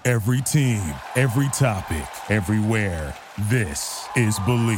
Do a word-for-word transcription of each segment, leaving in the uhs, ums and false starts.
Every team, every topic, everywhere. This is Believe.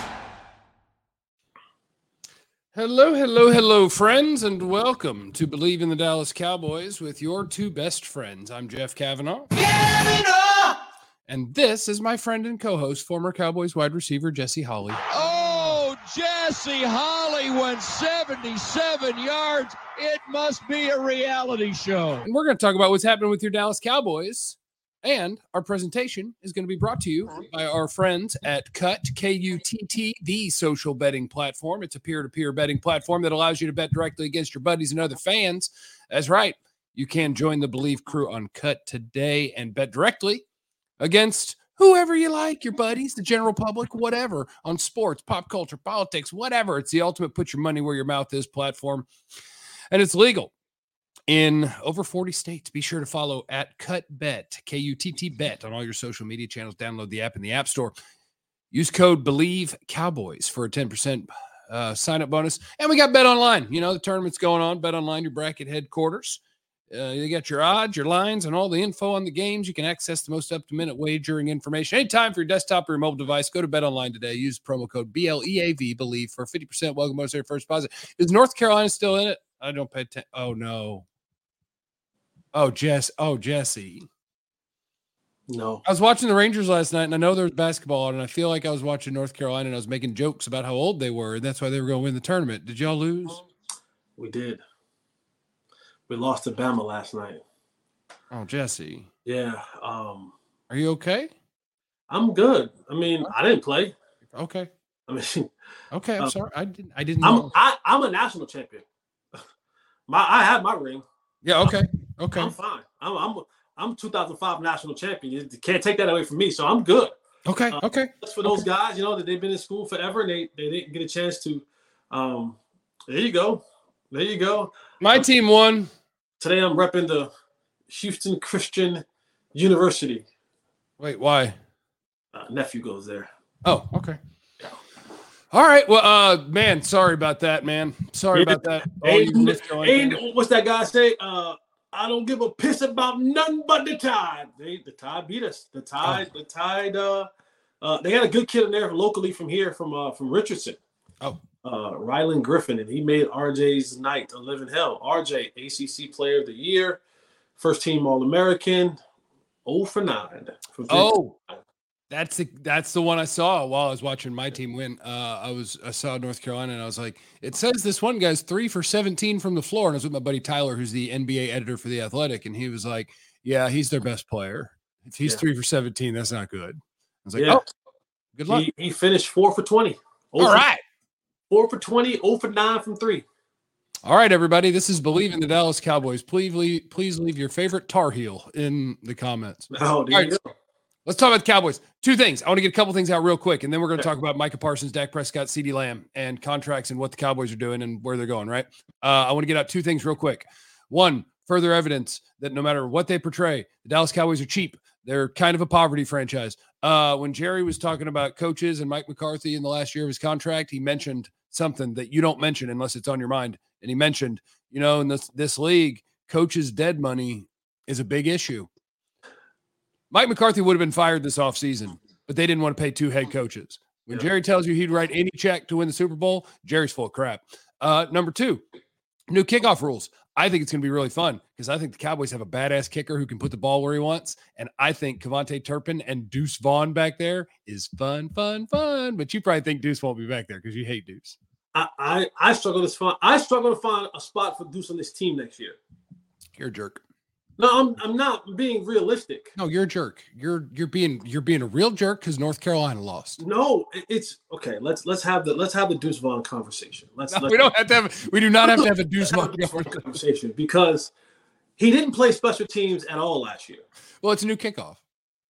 Hello, hello, hello, friends, and welcome to Believe in the Dallas Cowboys with your two best friends. I'm Jeff Kavanaugh. Kavanaugh! And this is my friend and co-host, former Cowboys wide receiver Jesse Holley. Oh, Jesse Holley went seventy-seven yards. It must be a reality show. And we're going to talk about what's happening with your Dallas Cowboys. And our presentation is going to be brought to you by our friends at Cut, K U T T, the social betting platform. It's a peer-to-peer betting platform that allows you to bet directly against your buddies and other fans. That's right. You can join the Believe crew on Cut today and bet directly against whoever you like, your buddies, the general public, whatever, on sports, pop culture, politics, whatever. It's the ultimate put your money where your mouth is platform. And it's legal in over forty states. Be sure to follow at CutBet, K U T T Bet, on all your social media channels. Download the app in the App Store. Use code Believe Cowboys for a ten percent uh, sign-up bonus. And we got Bet Online. You know, the tournament's going on. Bet Online, your bracket headquarters. Uh, you got your odds, your lines, and all the info on the games. You can access the most up-to-minute wagering information anytime for your desktop or your mobile device. Go to Bet Online today. Use promo code B L E A V, Believe, for fifty percent welcome bonus on your first deposit. Is North Carolina still in it? I don't pay attention. Oh, no. Oh, Jess. Oh, Jesse. No. I was watching the Rangers last night, and I know there was basketball on, and I feel like I was watching North Carolina, and I was making jokes about how old they were, and that's why they were going to win the tournament. Did y'all lose? We did. We lost to Bama last night. Oh, Jesse. Yeah. Um, Are you okay? I'm good. I mean, I didn't play. Okay. I mean, okay. I'm uh, sorry. I didn't. I didn't. I'm Know. I, I'm a national champion. My I have my ring. Yeah. Okay. Okay. I'm fine. I'm I'm I'm two thousand five national champion. You can't take that away from me. So I'm good. Okay. Uh, okay. That's for those okay. guys, you know, that they've been in school forever and they, they didn't get a chance to. Um, there you go. There you go. My um, team won. Today I'm repping the Houston Christian University. Wait, why? Uh, nephew goes there. Oh, okay. All right. Well, uh, man, sorry about that, man. Sorry yeah. about that. Oh, ain't, you ain't, what's that guy say? Uh, I don't give a piss about nothing but the Tide. They, the Tide beat us. The Tide, oh. the Tide. Uh, uh, they had a good kid in there locally from here, from uh, from Richardson. Oh. Uh, Rylan Griffin, and he made R J's night a living hell. R J, A C C Player of the Year, first team All-American, oh for nine. Oh, that's the that's the one I saw while I was watching my team win. Uh, I was I saw North Carolina, and I was like, it says this one guy's three for seventeen from the floor, and I was with my buddy Tyler, who's the N B A editor for The Athletic, and he was like, yeah, he's their best player. If he's yeah. three for seventeen, that's not good. I was like, yeah. oh, good luck. He, he finished four for twenty. All for, right. Four for twenty, oh for nine from three. All right, everybody. This is Believe in the Dallas Cowboys. Please leave, please leave your favorite Tar Heel in the comments. Oh, there you go. Let's talk about the Cowboys. Two things. I want to get a couple things out real quick, and then we're going to talk about Micah Parsons, Dak Prescott, CeeDee Lamb, and contracts and what the Cowboys are doing and where they're going, right? Uh, I want to get out two things real quick. One, further evidence that no matter what they portray, the Dallas Cowboys are cheap. They're kind of a poverty franchise. Uh, when Jerry was talking about coaches and Mike McCarthy in the last year of his contract, he mentioned something that you don't mention unless it's on your mind. And he mentioned, you know, in this, this league, coaches' dead money is a big issue. Mike McCarthy would have been fired this offseason, but they didn't want to pay two head coaches. When yeah. Jerry tells you he'd write any check to win the Super Bowl, Jerry's full of crap. Uh, number two, new kickoff rules. I think it's going to be really fun because I think the Cowboys have a badass kicker who can put the ball where he wants. And I think Kevontae Turpin and Deuce Vaughn back there is fun, fun, fun. But you probably think Deuce won't be back there because you hate Deuce. I, I, I struggle to find I struggle to find a spot for Deuce on this team next year. You're a jerk. No, I'm I'm not being realistic. No, you're a jerk. You're you're being you're being a real jerk because North Carolina lost. No, it's okay. Let's let's have the let's have the Deuce Vaughn conversation. Let's, no, let's we don't have to have we do not have to have a Deuce Vaughn conversation because he didn't play special teams at all last year. Well, it's a new kickoff.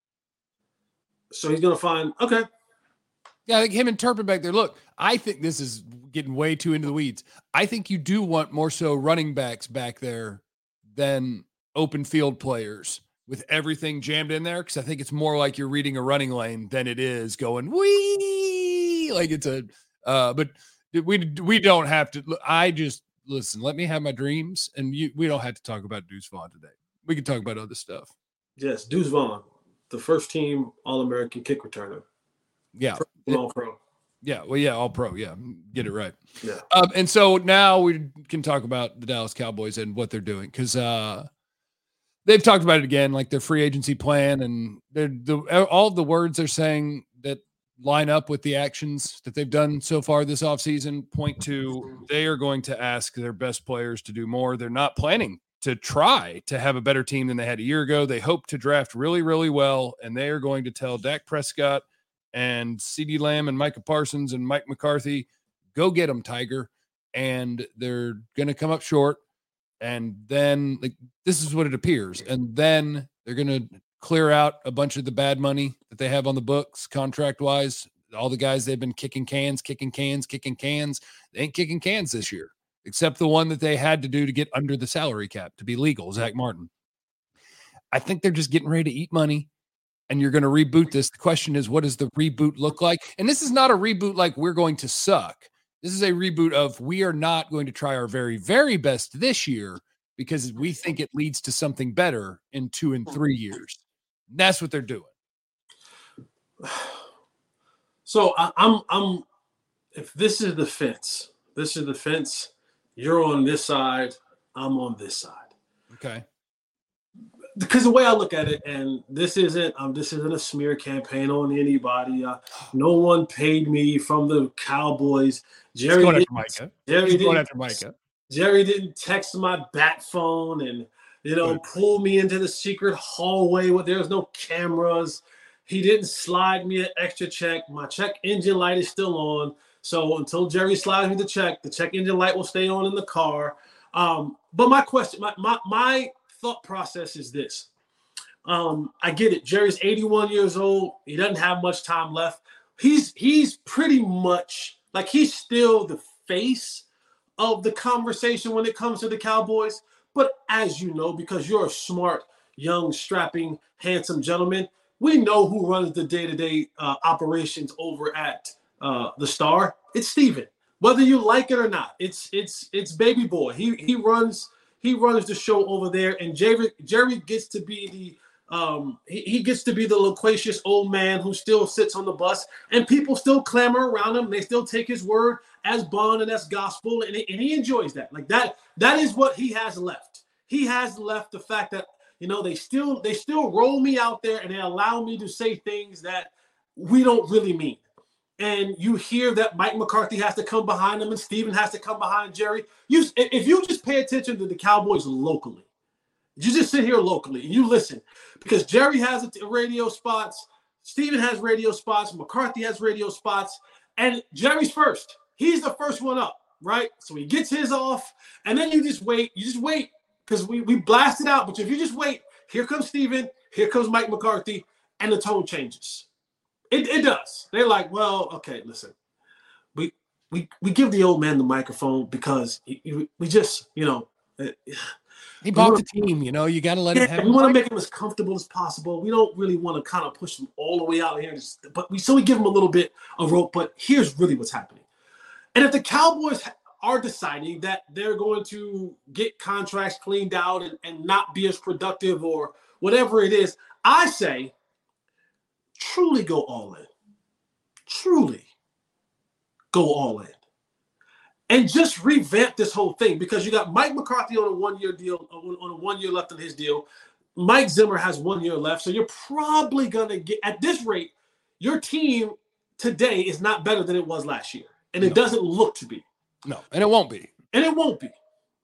So he's gonna find okay. Yeah, I think him and Turpin back there. Look, I think this is getting way too into the weeds. I think you do want more so running backs back there than open field players with everything jammed in there, because I think it's more like you're reading a running lane than it is going wee like it's a uh but we we don't have to. I just listen, let me have my dreams, and you we don't have to talk about Deuce Vaughn today. We can talk about other stuff. Yes, Deuce Vaughn, the first team All-American kick returner. Yeah. All pro. Yeah. Well, yeah, all pro. Yeah. Get it right. Yeah. Um, and so now we can talk about the Dallas Cowboys and what they're doing. Cause uh, they've talked about it again, like their free agency plan, and they're the, all of the words they're saying that line up with the actions that they've done so far this offseason point to they are going to ask their best players to do more. They're not planning to try to have a better team than they had a year ago. They hope to draft really, really well, and they are going to tell Dak Prescott and CeeDee Lamb and Micah Parsons and Mike McCarthy, go get them, Tiger. And they're going to come up short. And then like this is what it appears. And then they're going to clear out a bunch of the bad money that they have on the books contract wise. All the guys they've been kicking cans, kicking cans, kicking cans. They ain't kicking cans this year, except the one that they had to do to get under the salary cap to be legal, Zach Martin. I think they're just getting ready to eat money, and you're going to reboot this. The question is, what does the reboot look like? And this is not a reboot like we're going to suck. This is a reboot of we are not going to try our very, very best this year because we think it leads to something better in two and three years. That's what they're doing. So I, I'm, I'm, if this is the fence, this is the fence, you're on this side, I'm on this side. Okay. Because the way I look at it, and this isn't, um, this isn't a smear campaign on anybody. Uh, no one paid me from the Cowboys. Jerry going didn't, after Micah. Jerry He's going didn't, after Micah. Jerry didn't text my bat phone and, you know, Good. pull me into the secret hallway where there's no cameras. He didn't slide me an extra check. My check engine light is still on. So until Jerry slides me the check, the check engine light will stay on in the car. Um, but my question, my, my, my thought process is this. Um, I get it. Jerry's eighty-one years old. He doesn't have much time left. He's he's pretty much like he's still the face of the conversation when it comes to the Cowboys. But as you know, because you're a smart, young, strapping, handsome gentleman, we know who runs the day-to-day uh, operations over at uh, the Star. It's Steven. Whether you like it or not, it's it's it's baby boy. He he runs he runs the show over there, and Jerry Jerry gets to be the um he, he gets to be the loquacious old man who still sits on the bus, and people still clamor around him. They still take his word as bond and as gospel, and, and he enjoys that. Like that that is what he has left. He has left the fact that, you know, they still they still roll me out there and they allow me to say things that we don't really mean. And you hear that Mike McCarthy has to come behind him and Steven has to come behind Jerry. You, if you just pay attention to the Cowboys locally, you just sit here locally and you listen, because Jerry has radio spots, Steven has radio spots, McCarthy has radio spots, and Jerry's first. He's the first one up, right? So he gets his off, and then you just wait. You just wait, because we, we blast it out. But if you just wait, here comes Steven, here comes Mike McCarthy, and the tone changes. It, it does. They're like, well, okay, listen, we we we give the old man the microphone because we, we just, you know, he bought wanna, the team. You know, you got to let yeah, him have. We want to make him as comfortable as possible. We don't really want to kind of push him all the way out here, but we so we give him a little bit of rope. But here's really what's happening. And if the Cowboys are deciding that they're going to get contracts cleaned out and, and not be as productive or whatever it is, I say, truly go all in. Truly go all in. And just revamp this whole thing, because you got Mike McCarthy on a one-year deal, on a one year left on his deal. Mike Zimmer has one year left. So you're probably going to get, at this rate, your team today is not better than it was last year. And it no. doesn't look to be. No, and it won't be. And it won't be.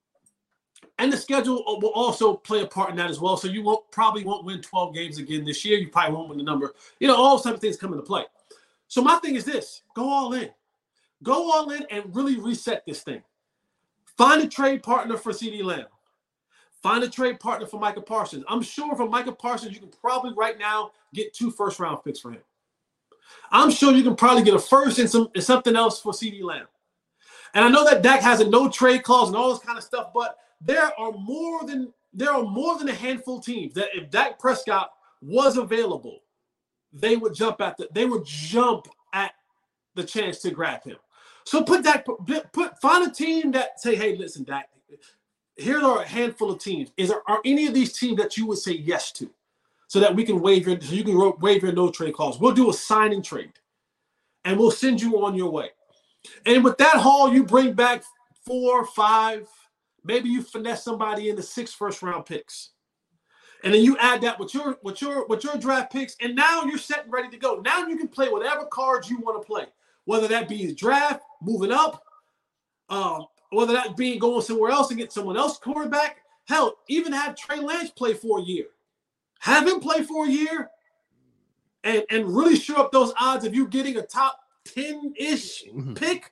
And the schedule will also play a part in that as well. So you won't probably won't win twelve games again this year. You probably won't win the number. You know, all those type of things come into play. So my thing is this: go all in. Go all in and really reset this thing. Find a trade partner for CeeDee Lamb. Find a trade partner for Micah Parsons. I'm sure for Micah Parsons, you can probably right now get two first-round picks for him. I'm sure you can probably get a first and some and something else for CeeDee Lamb. And I know that Dak has a no-trade clause and all this kind of stuff, but there are more than there are more than a handful of teams that if Dak Prescott was available, they would jump at the they would jump at the chance to grab him. So put Dak put find a team that say, hey, listen, Dak, here are a handful of teams. Is there are any of these teams that you would say yes to? so that we can waive your, so you can waive your no trade clause. We'll do a signing trade, and we'll send you on your way. And with that haul, you bring back four, five, maybe you finesse somebody into six first round picks. And then you add that with your with your with your draft picks, and now you're set and ready to go. Now you can play whatever cards you want to play, whether that be the draft, moving up, um, whether that be going somewhere else and get someone else quarterback. Hell, even have Trey Lance play for a year. Have him play for a year, and and really shore up those odds of you getting a top ten-ish pick.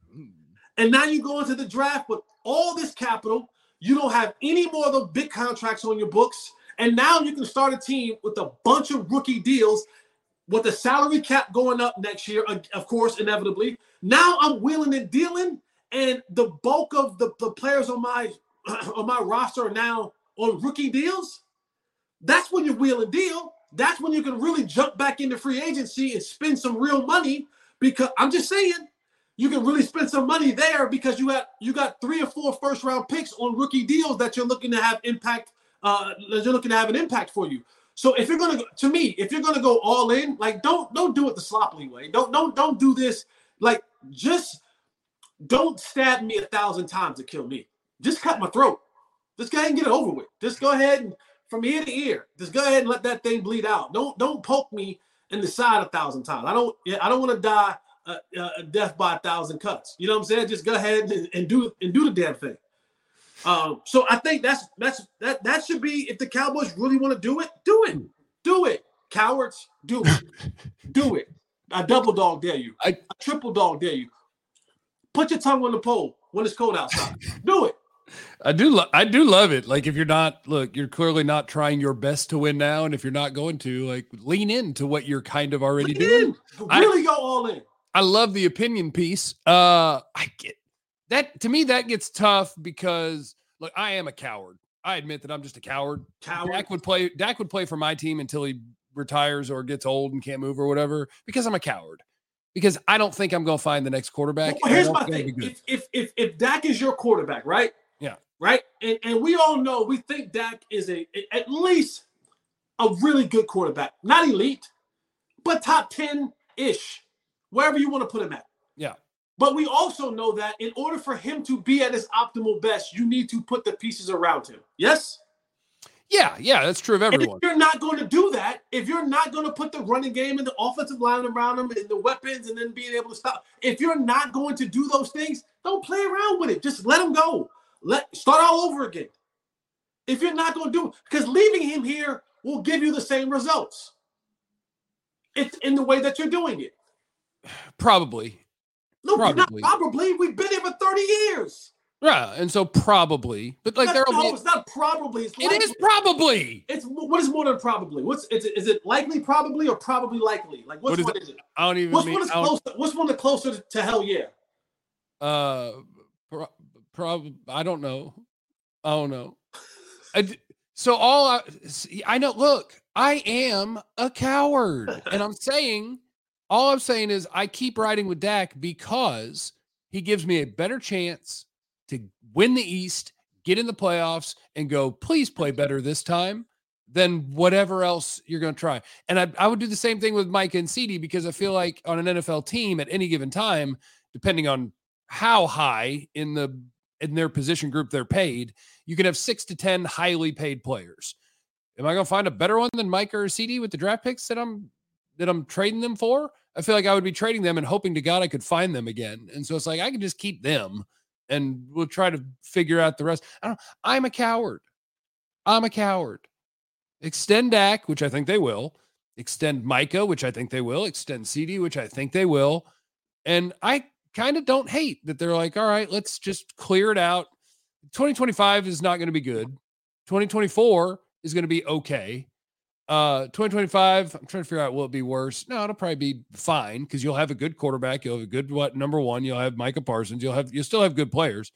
And now you go into the draft with all this capital. You don't have any more of the big contracts on your books. And now you can start a team with a bunch of rookie deals with the salary cap going up next year, of course, inevitably. Now I'm wheeling and dealing, and the bulk of the, the players on my on my roster are now on rookie deals. That's when you wheel and deal. That's when you can really jump back into free agency and spend some real money, because I'm just saying you can really spend some money there because you got you got three or four first round picks on rookie deals that you're looking to have impact. Uh, that you're looking to have an impact for you. So if you're gonna go, to me, if you're gonna go all in, like don't don't do it the sloppy way. Don't don't don't do this. Like just don't stab me a thousand times to kill me. Just cut my throat. Just go ahead and get it over with. Just go ahead and from ear to ear. Just go ahead and let that thing bleed out. Don't don't poke me in the side a thousand times. I don't I don't want to die a, a death by a thousand cuts. You know what I'm saying? Just go ahead and, and do and do the damn thing. Um, so I think that's that's that that should be, if the Cowboys really want to do it, do it, do it, cowards, do it, do it. I double dog dare you. I, I triple dog dare you. Put your tongue on the pole when it's cold outside. Do it. I do. Lo- I do love it. Like if you're not, look, you're clearly not trying your best to win now, and if you're not going to, like, lean into what you're kind of already lean doing. In. Really I, go all in. I love the opinion piece. Uh, I get. That, to me, that gets tough because, look, I am a coward. I admit that I'm just a coward. Coward. Dak would play. Dak would play for my team until he retires or gets old and can't move or whatever, because I'm a coward. Because I don't think I'm going to find the next quarterback. Well, here's my thing: if, if if if Dak is your quarterback, right? Yeah. Right. And and we all know, we think Dak is a at least a really good quarterback, not elite, but top ten ish, wherever you want to put him at. Yeah. But we also know that in order for him to be at his optimal best, you need to put the pieces around him. Yes? Yeah, yeah, that's true of everyone. And if you're not going to do that, if you're not going to put the running game and the offensive line around him and the weapons and then being able to stop, if you're not going to do those things, don't play around with it. Just let him go. Let start all over again. If you're not going to do it, because leaving him here will give you the same results. It's in the way that you're doing it. Probably. No, probably. Not probably. We've been here for thirty years. Yeah, and so probably, but like there will no, be. It's not probably. It's it is probably. It's what is more than probably. What's is it? Is it likely probably or probably likely? Like what's what is, what is it? I don't even. What's mean, one is closer? What's one that's closer to hell yeah? Uh, pro, prob. I don't know. I don't know. I, so all I, I know. Look, I am a coward, and I'm saying. All I'm saying is I keep riding with Dak because he gives me a better chance to win the East, get in the playoffs, and go, please play better this time than whatever else you're going to try. And I, I would do the same thing with Micah and C D, because I feel like on an N F L team at any given time, depending on how high in the in their position group they're paid, you can have six to ten highly paid players. Am I going to find a better one than Micah or C D with the draft picks that I'm that I'm trading them for? I feel like I would be trading them and hoping to God I could find them again. And so it's like, I can just keep them and we'll try to figure out the rest. I don't, I'm a coward. I'm a coward. Extend Dak, which I think they will. Extend Micah, which I think they will. Extend C D, which I think they will. And I kind of don't hate that they're like, all right, let's just clear it out. twenty twenty-five is not going to be good. twenty twenty-four is going to be okay. Uh, twenty twenty-five, I'm trying to figure out, will it be worse? No, it'll probably be fine because you'll have a good quarterback. You'll have a good what number one. You'll have Micah Parsons. You'll have you'll still have good players.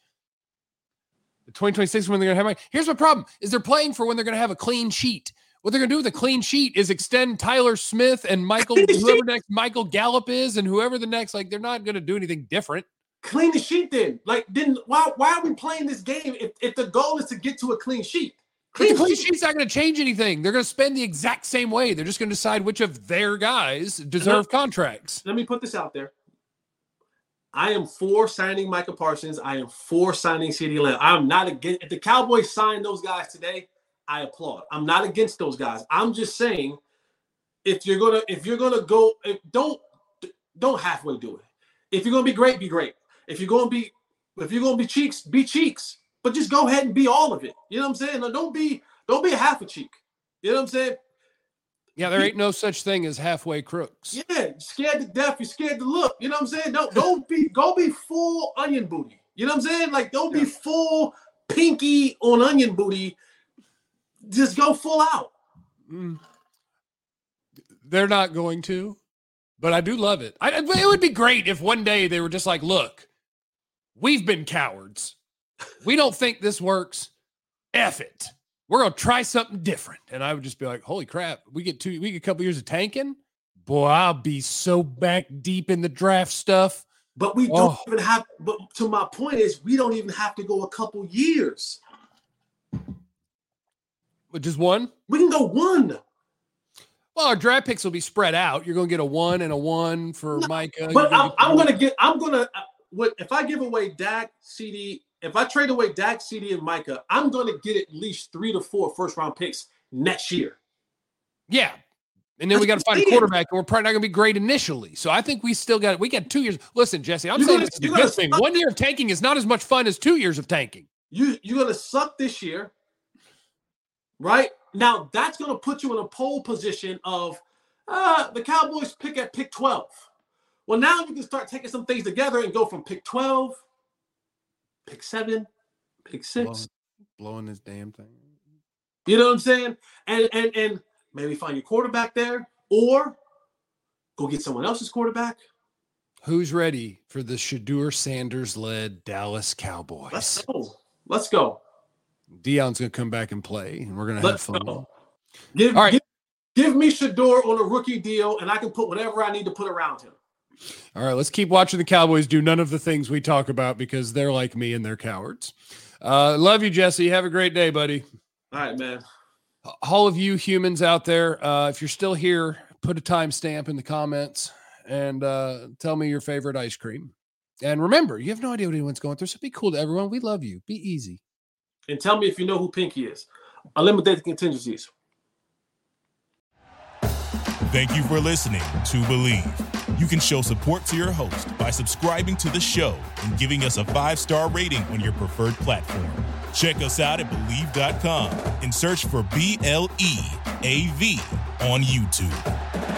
The twenty twenty-six when they're gonna have Mike. Here's my problem: is they're playing for when they're gonna have a clean sheet. What they're gonna do with a clean sheet is extend Tyler Smith and Michael, whoever next Michael Gallup is, and whoever the next. Like they're not gonna do anything different. Clean the sheet, then. Like then why why are we playing this game if if the goal is to get to a clean sheet? But the clean sheet's not going to change anything. They're going to spend the exact same way. They're just going to decide which of their guys deserve contracts. Let me put this out there. I am for signing Micah Parsons. I am for signing CeeDee Lamb. I'm not against. If the Cowboys sign those guys today, I applaud. I'm not against those guys. I'm just saying, if you're gonna, if you're gonna go, if, don't, don't halfway do it. If you're gonna be great, be great. If you're gonna be, if you're gonna be cheeks, be cheeks. But just go ahead and be all of it. You know what I'm saying? No, don't be, don't be a half a cheek. You know what I'm saying? Yeah, there ain't no such thing as halfway crooks. Yeah, scared to death. You're scared to look. You know what I'm saying? Don't don't be go be full onion booty. You know what I'm saying? Like don't be full pinky on onion booty. Just go full out. Mm. They're not going to, but I do love it. I, it would be great if one day they were just like, look, we've been cowards. We don't think this works. F it. We're going to try something different. And I would just be like, holy crap, we get two, we get a couple years of tanking. Boy, I'll be so back deep in the draft stuff. But we don't oh. even have, but to my point is we don't even have to go a couple years. But just one? We can go one. Well, our draft picks will be spread out. You're going to get a one and a one for no, Micah. But I'm, I'm going to get, I'm going to, what if I give away Dak, CeeDee, if I trade away Dak, CeeDee, and Micah, I'm going to get at least three to four first-round picks next year. Yeah. And then That's we got to find a quarterback, and we're probably not going to be great initially. So I think we still got – we got two years. Listen, Jesse, I'm you're saying gonna, this is a good thing. Suck. One year of tanking is not as much fun as two years of tanking. You, you're going to suck this year, right? Now, that's going to put you in a pole position of uh, the Cowboys pick at pick twelve. Well, now you can start taking some things together and go from pick twelve – pick seven, pick six. Blowing, blowing this damn thing. You know what I'm saying? And and and maybe find your quarterback there or go get someone else's quarterback. Who's ready for the Shedeur Sanders-led Dallas Cowboys? Let's go. Let's go. Deion's going to come back and play, and we're going to have fun. Go. Give, All right. give, give me Shedeur on a rookie deal, and I can put whatever I need to put around him. All right, let's keep watching the Cowboys do none of the things we talk about because they're like me and they're cowards. Uh, love you, Jesse. Have a great day, buddy. All right, man. All of you humans out there, uh, if you're still here, put a timestamp in the comments and uh, tell me your favorite ice cream. And remember, you have no idea what anyone's going through, so be cool to everyone. We love you. Be easy. And tell me if you know who Pinky is. Eliminate the contingencies. Thank you for listening to Believe. You can show support to your host by subscribing to the show and giving us a five-star rating on your preferred platform. Check us out at Believe dot com and search for B L E A V on YouTube.